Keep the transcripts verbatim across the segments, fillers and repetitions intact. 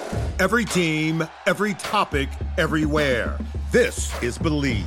Every team, every topic, everywhere. This is Believe.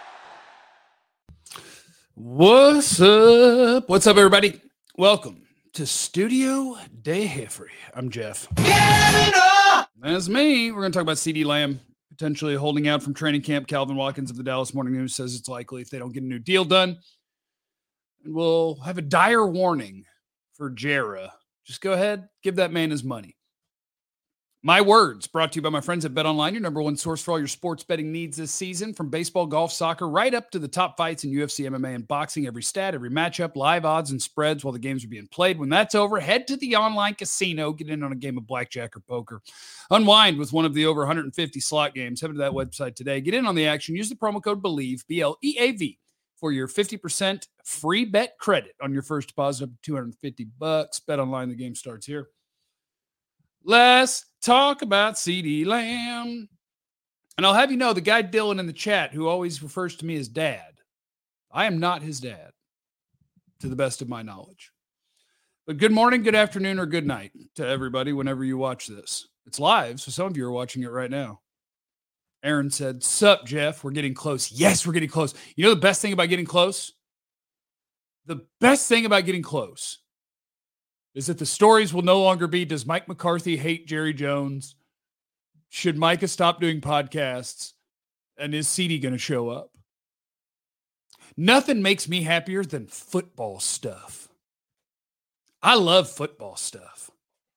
What's up? What's up, everybody? Welcome to Studio De Jeffrey. I'm Jeff. That's me. We're going to talk about CeeDee Lamb potentially holding out from training camp. Calvin Watkins of the Dallas Morning News says it's likely if they don't get a new deal done. And we'll have a dire warning for Jera. Just go ahead, give that man his money. My words brought to you by my friends at BetOnline, your number one source for all your sports betting needs this season. From baseball, golf, soccer, right up to the top fights in U F C, M M A, and boxing. Every stat, every matchup, live odds and spreads while the games are being played. When that's over, head to the online casino, get in on a game of blackjack or poker. Unwind with one of the over one hundred fifty slot games. Head to that website today. Get in on the action. Use the promo code BELIEVE, B L E A V, for your fifty percent free bet credit on your first deposit up to two hundred fifty bucks. BetOnline, the game starts here. Let's talk about CeeDee Lamb. And I'll have you know, the guy Dylan in the chat who always refers to me as dad, I am not his dad, to the best of my knowledge. But good morning, good afternoon, or good night to everybody whenever you watch this. It's live, so some of you are watching it right now. Aaron said, "Sup, Jeff? We're getting close." Yes, we're getting close. You know the best thing about getting close? The best thing about getting close is that the stories will no longer be, does Mike McCarthy hate Jerry Jones? Should Micah stop doing podcasts? And is CeeDee going to show up? Nothing makes me happier than football stuff. I love football stuff.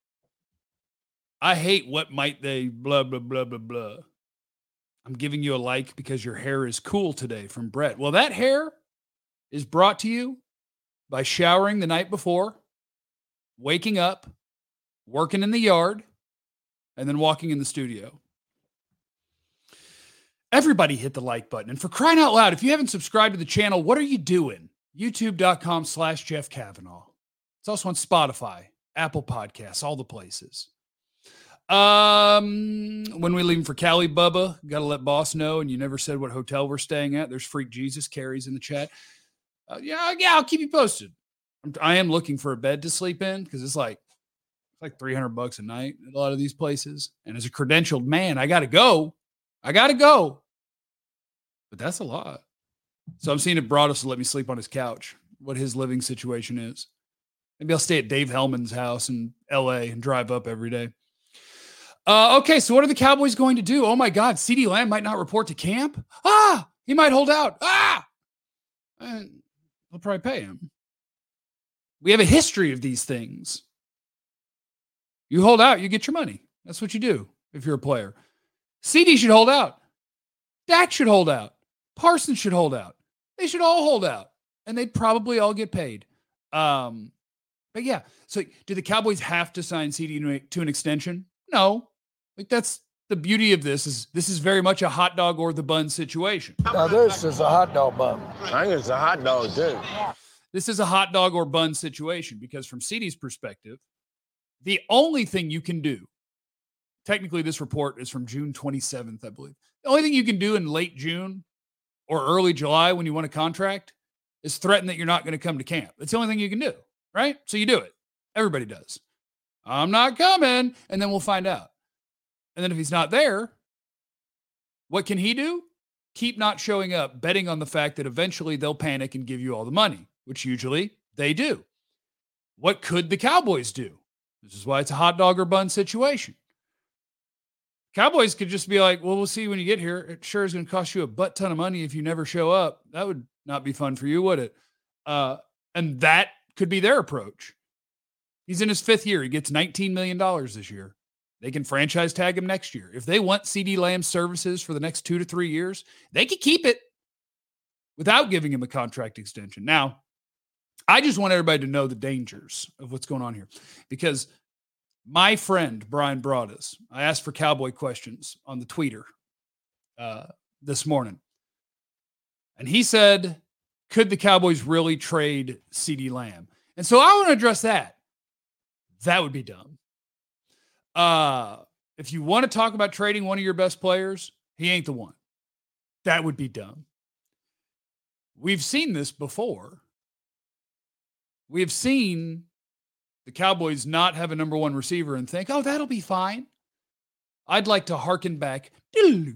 I hate what might they blah, blah, blah, blah, blah. I'm giving you a like because your hair is cool today from Brett. Well, that hair is brought to you by showering the night before, waking up, working in the yard, and then walking in the studio. Everybody hit the like button. And for crying out loud, if you haven't subscribed to the channel, what are you doing? YouTube.com slash Jeff Kavanaugh. It's also on Spotify, Apple Podcasts, all the places. Um, when we leave for Cali, Bubba, got to let boss know. And you never said what hotel we're staying at. There's Freak Jesus Carries in the chat. Uh, yeah, yeah, I'll keep you posted. I am looking for a bed to sleep in because it's like it's like three hundred bucks a night at a lot of these places. And as a credentialed man, I got to go. I got to go. But that's a lot. So I'm seeing if Broadus will let me sleep on his couch, what his living situation is. Maybe I'll stay at Dave Hellman's house in L A and drive up every day. Uh, okay, so what are the Cowboys going to do? Oh, my God, CeeDee Lamb might not report to camp. Ah, he might hold out. Ah, and they'll probably pay him. We have a history of these things. You hold out, you get your money. That's what you do if you're a player. CeeDee should hold out. Dak should hold out. Parsons should hold out. They should all hold out. And they'd probably all get paid. Um, but yeah, so do the Cowboys have to sign CeeDee to an extension? No. Like that's the beauty of this is this is very much a hot dog or the bun situation. Now this is a hot dog bun. I think it's a hot dog too. This is a hot dog or bun situation because from CeeDee's perspective, the only thing you can do, technically this report is from June twenty-seventh, I believe. The only thing you can do in late June or early July when you want a contract is threaten that you're not going to come to camp. That's the only thing you can do, right? So you do it. Everybody does. I'm not coming. And then we'll find out. And then if he's not there, what can he do? Keep not showing up, betting on the fact that eventually they'll panic and give you all the money, which usually they do. What could the Cowboys do? This is why it's a hot dog or bun situation. Cowboys could just be like, well, we'll see when you get here. It sure is going to cost you a butt ton of money if you never show up. That would not be fun for you, would it? Uh, and that could be their approach. He's in his fifth year. He gets nineteen million dollars this year. They can franchise tag him next year. If they want CeeDee Lamb's services for the next two to three years, they could keep it without giving him a contract extension. Now, I just want everybody to know the dangers of what's going on here because my friend, Brian Broadus, I asked for Cowboy questions on the tweeter uh, this morning. And he said, could the Cowboys really trade CeeDee Lamb? And so I want to address that. That would be dumb. Uh, if you want to talk about trading one of your best players, he ain't the one. That would be dumb. We've seen this before. We have seen the Cowboys not have a number one receiver and think, oh, that'll be fine. I'd like to hearken back. I'd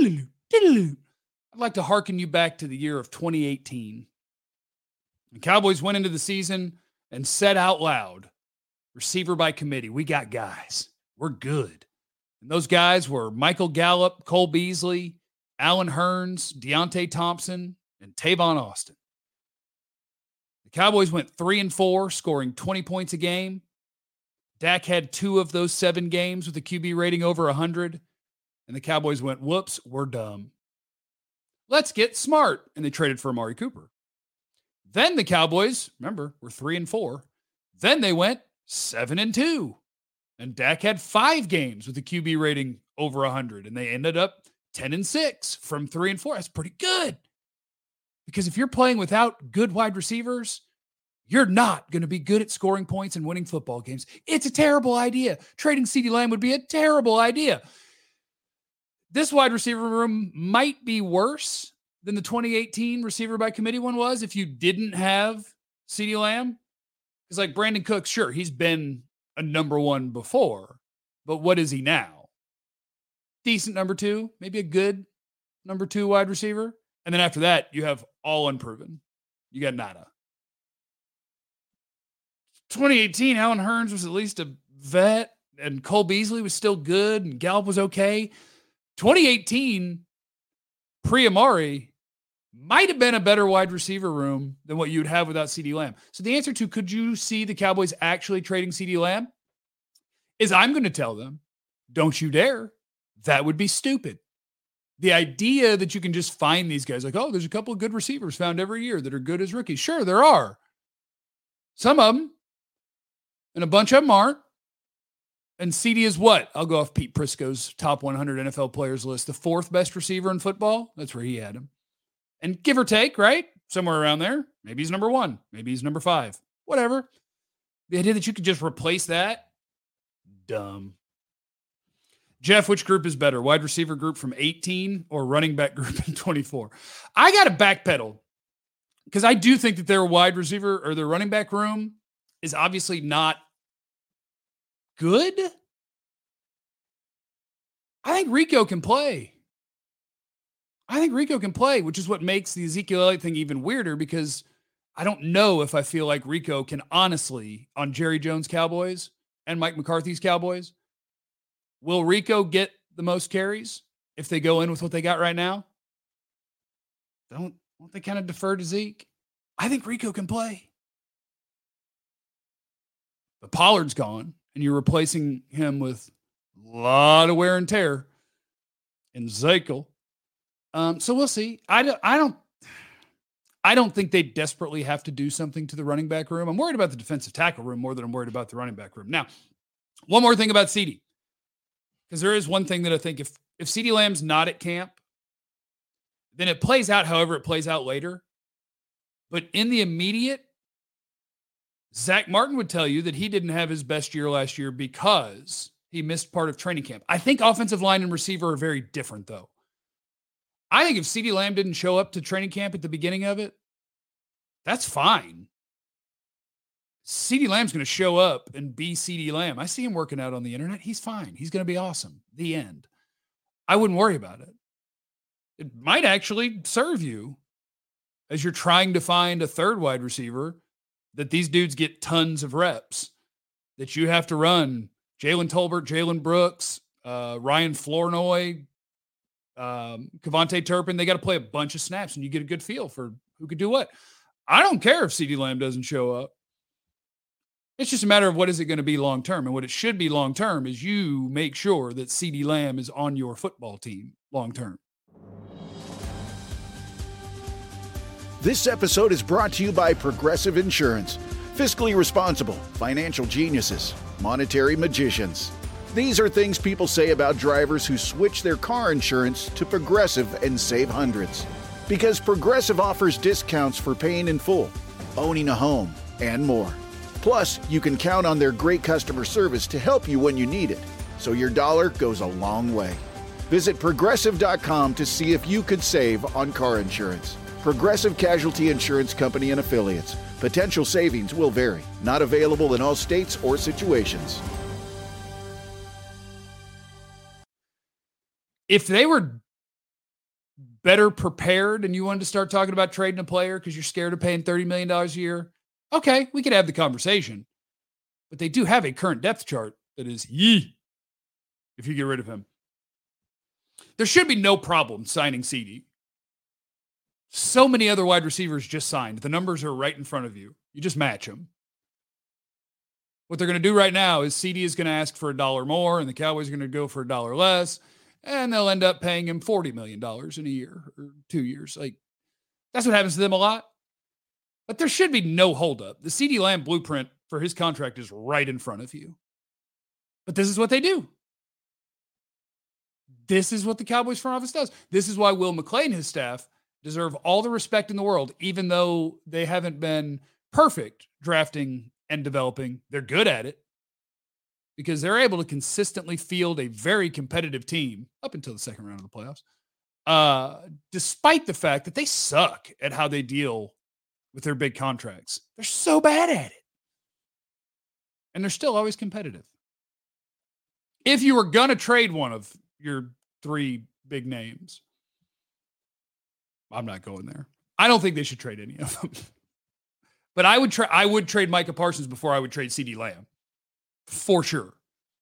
like to hearken you back to the year of twenty eighteen. The Cowboys went into the season and said out loud, receiver by committee, we got guys. We're good. And those guys were Michael Gallup, Cole Beasley, Allen Hurns, Deontay Thompson, and Tavon Austin. The Cowboys went three and four, scoring twenty points a game. Dak had two of those seven games with a Q B rating over one hundred. And the Cowboys went, whoops, we're dumb. Let's get smart. And they traded for Amari Cooper. Then the Cowboys, remember, were three and four. Then they went seven and two. And Dak had five games with a Q B rating over one hundred. And they ended up ten and six from three and four. That's pretty good. Because if you're playing without good wide receivers, you're not going to be good at scoring points and winning football games. It's a terrible idea. Trading CeeDee Lamb would be a terrible idea. This wide receiver room might be worse than the twenty eighteen receiver by committee one was if you didn't have CeeDee Lamb. Because like Brandon Cooks, sure, he's been a number one before, but what is he now? Decent number two, maybe a good number two wide receiver. And then after that, you have all unproven. You got nada. twenty eighteen, Allen Hurns was at least a vet, and Cole Beasley was still good, and Gallup was okay. twenty eighteen, pre-Amari, might have been a better wide receiver room than what you'd have without CeeDee Lamb. So the answer to could you see the Cowboys actually trading CeeDee Lamb is I'm going to tell them, don't you dare. That would be stupid. The idea that you can just find these guys like, oh, there's a couple of good receivers found every year that are good as rookies. Sure, there are. Some of them. And a bunch of them aren't. And CeeDee is what? I'll go off Pete Prisco's top one hundred N F L players list. The fourth best receiver in football. That's where he had him. And give or take, right? Somewhere around there. Maybe he's number one. Maybe he's number five. Whatever. The idea that you could just replace that, dumb. Jeff, which group is better? Wide receiver group from eighteen or running back group in twenty-four? I got to backpedal because I do think that their wide receiver or their running back room is obviously not good. I think Rico can play. I think Rico can play, which is what makes the Ezekiel Elliott thing even weirder because I don't know if I feel like Rico can honestly, on Jerry Jones' Cowboys and Mike McCarthy's Cowboys, will Rico get the most carries if they go in with what they got right now? Don't, don't they kind of defer to Zeke? I think Rico can play. But Pollard's gone, and you're replacing him with a lot of wear and tear in Zekel. Um, so we'll see. I don't, I don't, I don't think they desperately have to do something to the running back room. I'm worried about the defensive tackle room more than I'm worried about the running back room. Now, one more thing about CeeDee. Because there is one thing that I think if, if CeeDee Lamb's not at camp, then it plays out however it plays out later. But in the immediate, Zach Martin would tell you that he didn't have his best year last year because he missed part of training camp. I think offensive line and receiver are very different, though. I think if CeeDee Lamb didn't show up to training camp at the beginning of it, that's fine. CeeDee Lamb's going to show up and be CeeDee Lamb. I see him working out on the internet. He's fine. He's going to be awesome. The end. I wouldn't worry about it. It might actually serve you as you're trying to find a third wide receiver that these dudes get tons of reps, that you have to run Jalen Tolbert, Jalen Brooks, uh, Ryan Flournoy, um, Kevontae Turpin. They got to play a bunch of snaps and you get a good feel for who could do what. I don't care if CeeDee Lamb doesn't show up. It's just a matter of what is it going to be long-term. And what it should be long-term is you make sure that CeeDee Lamb is on your football team long-term. This episode is brought to you by Progressive Insurance. Fiscally responsible, financial geniuses, monetary magicians. These are things people say about drivers who switch their car insurance to Progressive and save hundreds. Because Progressive offers discounts for paying in full, owning a home, and more. Plus, you can count on their great customer service to help you when you need it, so your dollar goes a long way. Visit Progressive dot com to see if you could save on car insurance. Progressive Casualty Insurance Company and Affiliates. Potential savings will vary. Not available in all states or situations. If they were better prepared and you wanted to start talking about trading a player because you're scared of paying thirty million dollars a year, okay, we could have the conversation. But they do have a current depth chart that is yee if you get rid of him. There should be no problem signing C D. So many other wide receivers just signed. The numbers are right in front of you. You just match them. What they're going to do right now is C D is going to ask for a dollar more, and the Cowboys are going to go for a dollar less, and they'll end up paying him forty million dollars in a year or two years. Like, that's what happens to them a lot. But there should be no holdup. The CeeDee Lamb blueprint for his contract is right in front of you. But this is what they do. This is what the Cowboys front office does. This is why Will McClay and his staff deserve all the respect in the world, even though they haven't been perfect drafting and developing. They're good at it because they're able to consistently field a very competitive team up until the second round of the playoffs, uh, despite the fact that they suck at how they deal with their big contracts. They're so bad at it. And they're still always competitive. If you were going to trade one of your three big names, I'm not going there. I don't think they should trade any of them. But I would try. I would trade Micah Parsons before I would trade CeeDee Lamb, for sure.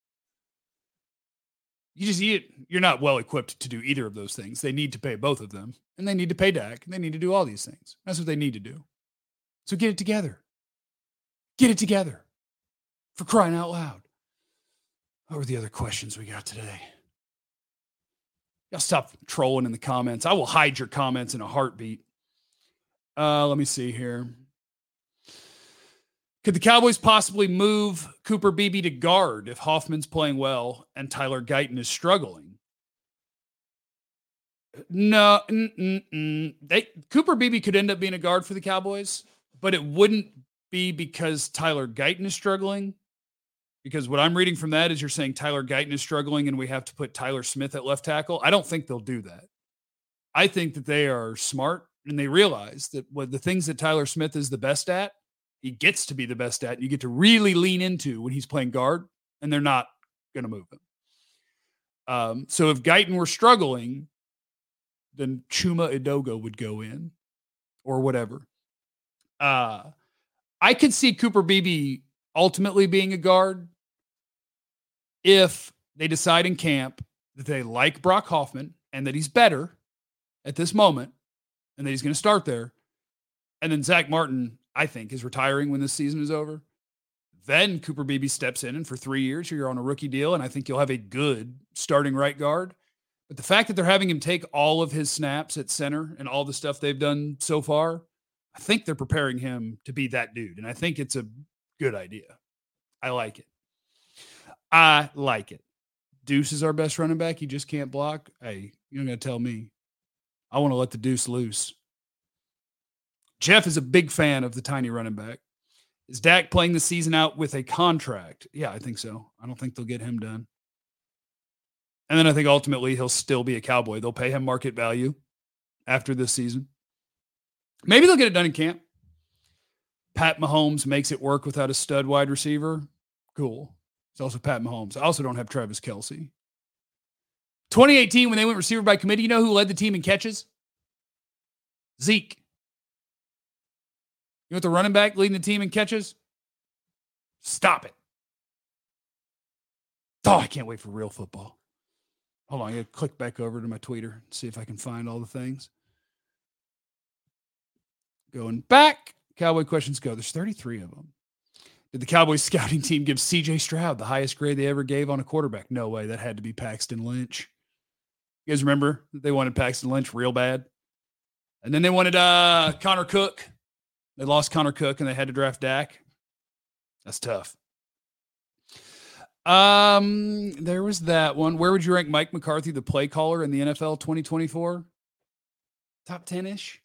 You just you, you're not well equipped to do either of those things. They need to pay both of them, and they need to pay Dak, and they need to do all these things. That's what they need to do. So get it together. Get it together. For crying out loud. What were the other questions we got today? Y'all stop trolling in the comments. I will hide your comments in a heartbeat. Uh, let me see here. Could the Cowboys possibly move Cooper Beebe to guard if Hoffman's playing well and Tyler Guyton is struggling? No, mm-mm-mm. They Cooper Beebe could end up being a guard for the Cowboys, but it wouldn't be because Tyler Guyton is struggling. Because what I'm reading from that is you're saying Tyler Guyton is struggling and we have to put Tyler Smith at left tackle. I don't think they'll do that. I think that they are smart and they realize that what the things that Tyler Smith is the best at, he gets to be the best at, and you get to really lean into when he's playing guard, and they're not going to move him. Um, so if Guyton were struggling, then Chuma Edoga would go in or whatever. Uh, I could see Cooper Beebe ultimately being a guard if they decide in camp that they like Brock Hoffman and that he's better at this moment and that he's going to start there. And then Zach Martin, I think, is retiring when this season is over. Then Cooper Beebe steps in, and for three years, you're on a rookie deal, and I think you'll have a good starting right guard. But the fact that they're having him take all of his snaps at center and all the stuff they've done so far, I think they're preparing him to be that dude. And I think it's a good idea. I like it. I like it. Deuce is our best running back. He just can't block. Hey, you're going to tell me. I want to let the Deuce loose. Jeff is a big fan of the tiny running back. Is Dak playing the season out with a contract? Yeah, I think so. I don't think they'll get him done. And then I think ultimately he'll still be a Cowboy. They'll pay him market value after this season. Maybe they'll get it done in camp. Pat Mahomes makes it work without a stud wide receiver. Cool. It's also Pat Mahomes. I also don't have Travis Kelce. twenty eighteen, when they went receiver by committee, you know who led the team in catches? Zeke. You want the running back leading the team in catches? Stop it. Oh, I can't wait for real football. Hold on, I got to click back over to my Twitter and see if I can find all the things. Going back. Cowboy questions go. There's thirty-three of them. Did the Cowboys scouting team give C J Stroud the highest grade they ever gave on a quarterback? No way. That had to be Paxton Lynch. You guys remember they wanted Paxton Lynch real bad? And then they wanted uh, Connor Cook. They lost Connor Cook and they had to draft Dak. That's tough. Um, there was that one. Where would you rank Mike McCarthy, the play caller in the N F L twenty twenty-four? Top ten-ish?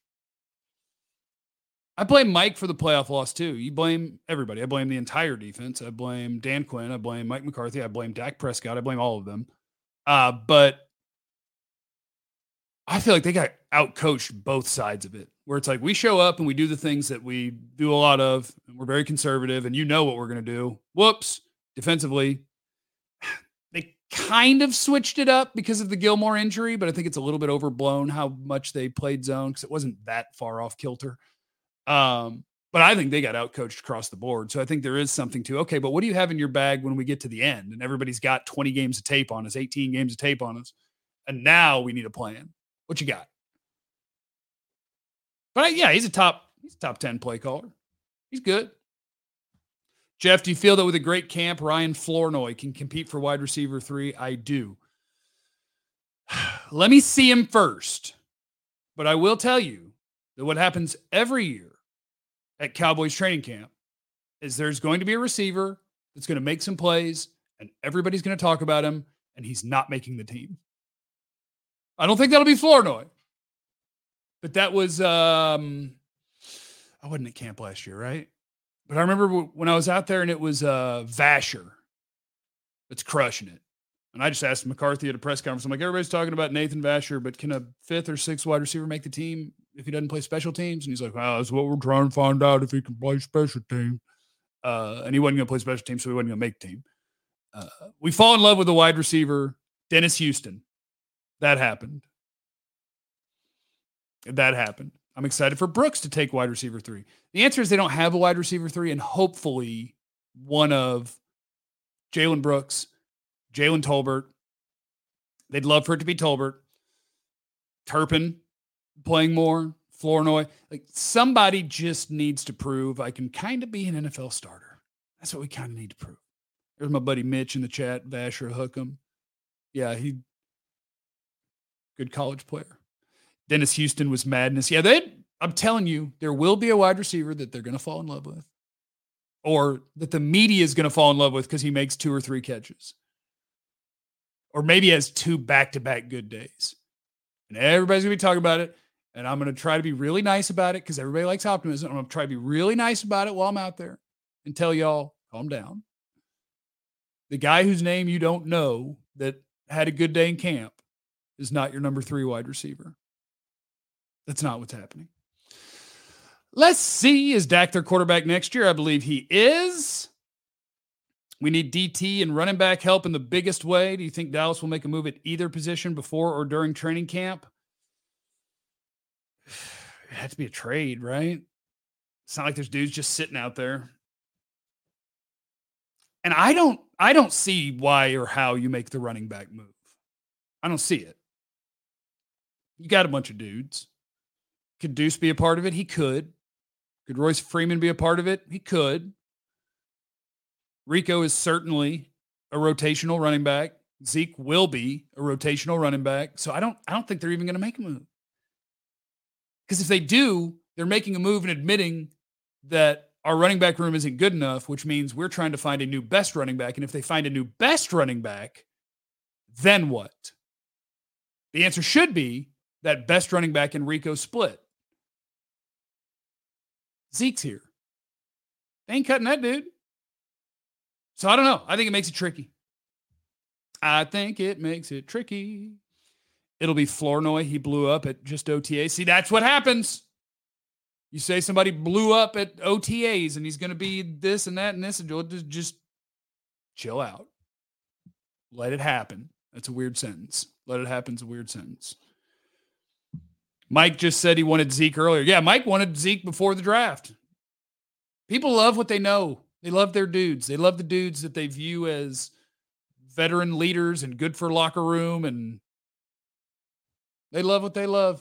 I blame Mike for the playoff loss too. You blame everybody. I blame the entire defense. I blame Dan Quinn. I blame Mike McCarthy. I blame Dak Prescott. I blame all of them. Uh, but I feel like they got out-coached both sides of it, where it's like we show up and we do the things that we do a lot of, and we're very conservative, and you know what we're going to do. Whoops. Defensively, they kind of switched it up because of the Gilmore injury, but I think it's a little bit overblown how much they played zone because it wasn't that far off kilter. Um, but I think they got outcoached across the board. So I think there is something to, okay, but what do you have in your bag when we get to the end and everybody's got twenty games of tape on us, eighteen games of tape on us, and now we need a plan? What you got? But yeah, he's a top, he's a top ten play caller. He's good. Jeff, do you feel that with a great camp, Ryan Flournoy can compete for wide receiver three? I do. Let me see him first. But I will tell you that what happens every year at Cowboys training camp is there's going to be a receiver that's going to make some plays, and everybody's going to talk about him, and he's not making the team. I don't think that'll be Flournoy. But that was, um, I wasn't at camp last year, right? But I remember when I was out there and it was uh, Vasher that's crushing it. And I just asked McCarthy at a press conference, I'm like, everybody's talking about Nathan Vasher, but can a fifth or sixth wide receiver make the team if he doesn't play special teams? And he's like, well, that's what we're trying to find out, if he can play special teams. Uh, and he wasn't going to play special teams, so he wasn't going to make the team. Uh, we fall in love with a wide receiver, Dennis Houston. That happened. That happened. I'm excited for Brooks to take wide receiver three. The answer is they don't have a wide receiver three, and hopefully one of Jalen Brooks, Jalen Tolbert. They'd love for it to be Tolbert. Turpin playing more, Flournoy. Like, somebody just needs to prove I can kind of be an N F L starter. That's what we kind of need to prove. There's my buddy Mitch in the chat, Vasher Hookham. Yeah, he good college player. Dennis Houston was madness. Yeah, they. I'm telling you, there will be a wide receiver that they're going to fall in love with, or that the media is going to fall in love with because he makes two or three catches, or maybe has two back-to-back good days. And everybody's going to be talking about it, and I'm going to try to be really nice about it because everybody likes optimism. I'm going to try to be really nice about it while I'm out there and tell y'all, calm down. The guy whose name you don't know that had a good day in camp is not your number three wide receiver. That's not what's happening. Let's see. Is Dak their quarterback next year? I believe he is. We need D T and running back help in the biggest way. Do you think Dallas will make a move at either position before or during training camp? It had to be a trade, right? It's not like there's dudes just sitting out there. And I don't, I don't see why or how you make the running back move. I don't see it. You got a bunch of dudes. Could Deuce be a part of it? He could. Could Royce Freeman be a part of it? He could. Rico is certainly a rotational running back. Zeke will be a rotational running back. So I don't, I don't think they're even going to make a move. Because if they do, they're making a move and admitting that our running back room isn't good enough, which means we're trying to find a new best running back. And if they find a new best running back, then what? The answer should be that best running back and Rico split. Zeke's here. They ain't cutting that dude. So I don't know. I think it makes it tricky. I think it makes it tricky. It'll be Flournoy. He blew up at just O T A. See, that's what happens. You say somebody blew up at O T As and he's going to be this and that and this, and just, just chill out. Let it happen. That's a weird sentence. Let it happen is a weird sentence. Mike just said he wanted Zeke earlier. Yeah, Mike wanted Zeke before the draft. People love what they know. They love their dudes. They love the dudes that they view as veteran leaders and good for locker room, and they love what they love.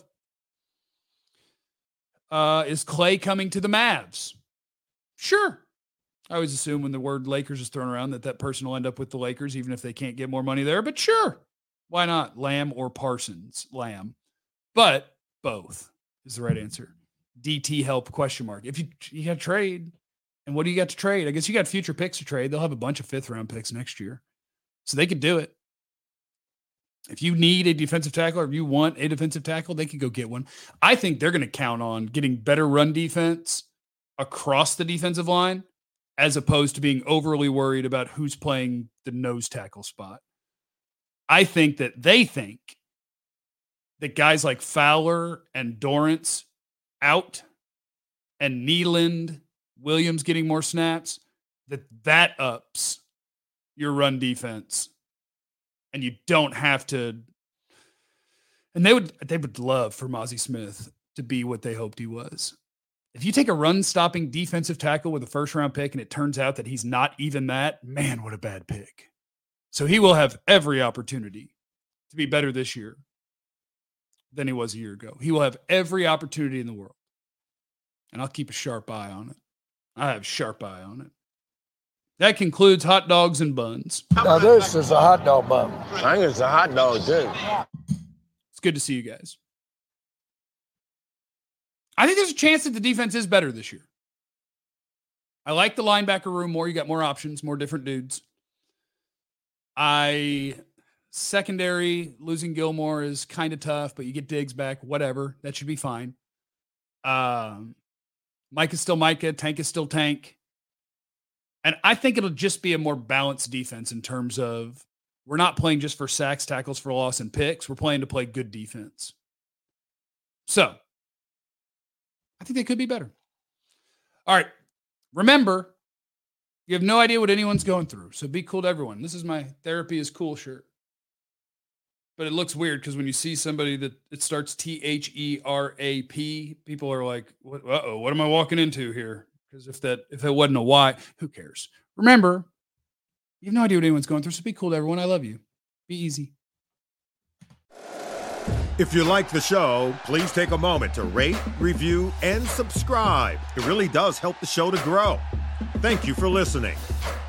Uh, is Clay coming to the Mavs? Sure. I always assume when the word Lakers is thrown around that that person will end up with the Lakers, even if they can't get more money there. But sure. Why not? Lamb or Parsons? Lamb. But both is the right answer. D T help, question mark. If you, you got to trade, and what do you got to trade? I guess you got future picks to trade. They'll have a bunch of fifth round picks next year. So they could do it. If you need a defensive tackle or if you want a defensive tackle, they could go get one. I think they're going to count on getting better run defense across the defensive line as opposed to being overly worried about who's playing the nose tackle spot. I think that they think that guys like Fowler and Dorrance out and Nealand, Williams getting more snaps, that that ups your run defense and you don't have to. And they would they would love for Mazi Smith to be what they hoped he was. If you take a run-stopping defensive tackle with a first-round pick and it turns out that he's not even that, man, what a bad pick. So he will have every opportunity to be better this year than he was a year ago. He will have every opportunity in the world. And I'll keep a sharp eye on it. I have a sharp eye on it. That concludes hot dogs and buns. Now this is a hot dog bun. I think it's a hot dog, too. It's good to see you guys. I think there's a chance that the defense is better this year. I like the linebacker room more. You got more options, more different dudes. I secondary, losing Gilmore is kind of tough, but you get Diggs back, whatever. That should be fine. Um, Mike is still Micah. Tank is still Tank. And I think it'll just be a more balanced defense in terms of we're not playing just for sacks, tackles for loss, and picks. We're playing to play good defense. So, I think they could be better. All right. Remember, you have no idea what anyone's going through. So be cool to everyone. This is my therapy is cool shirt. But it looks weird because when you see somebody that it starts T H E R A P, people are like, what, uh-oh, what am I walking into here? Because if that if it wasn't a Y, who cares? Remember, you have no idea what anyone's going through. So be cool to everyone. I love you. Be easy. If you like the show, please take a moment to rate, review, and subscribe. It really does help the show to grow. Thank you for listening.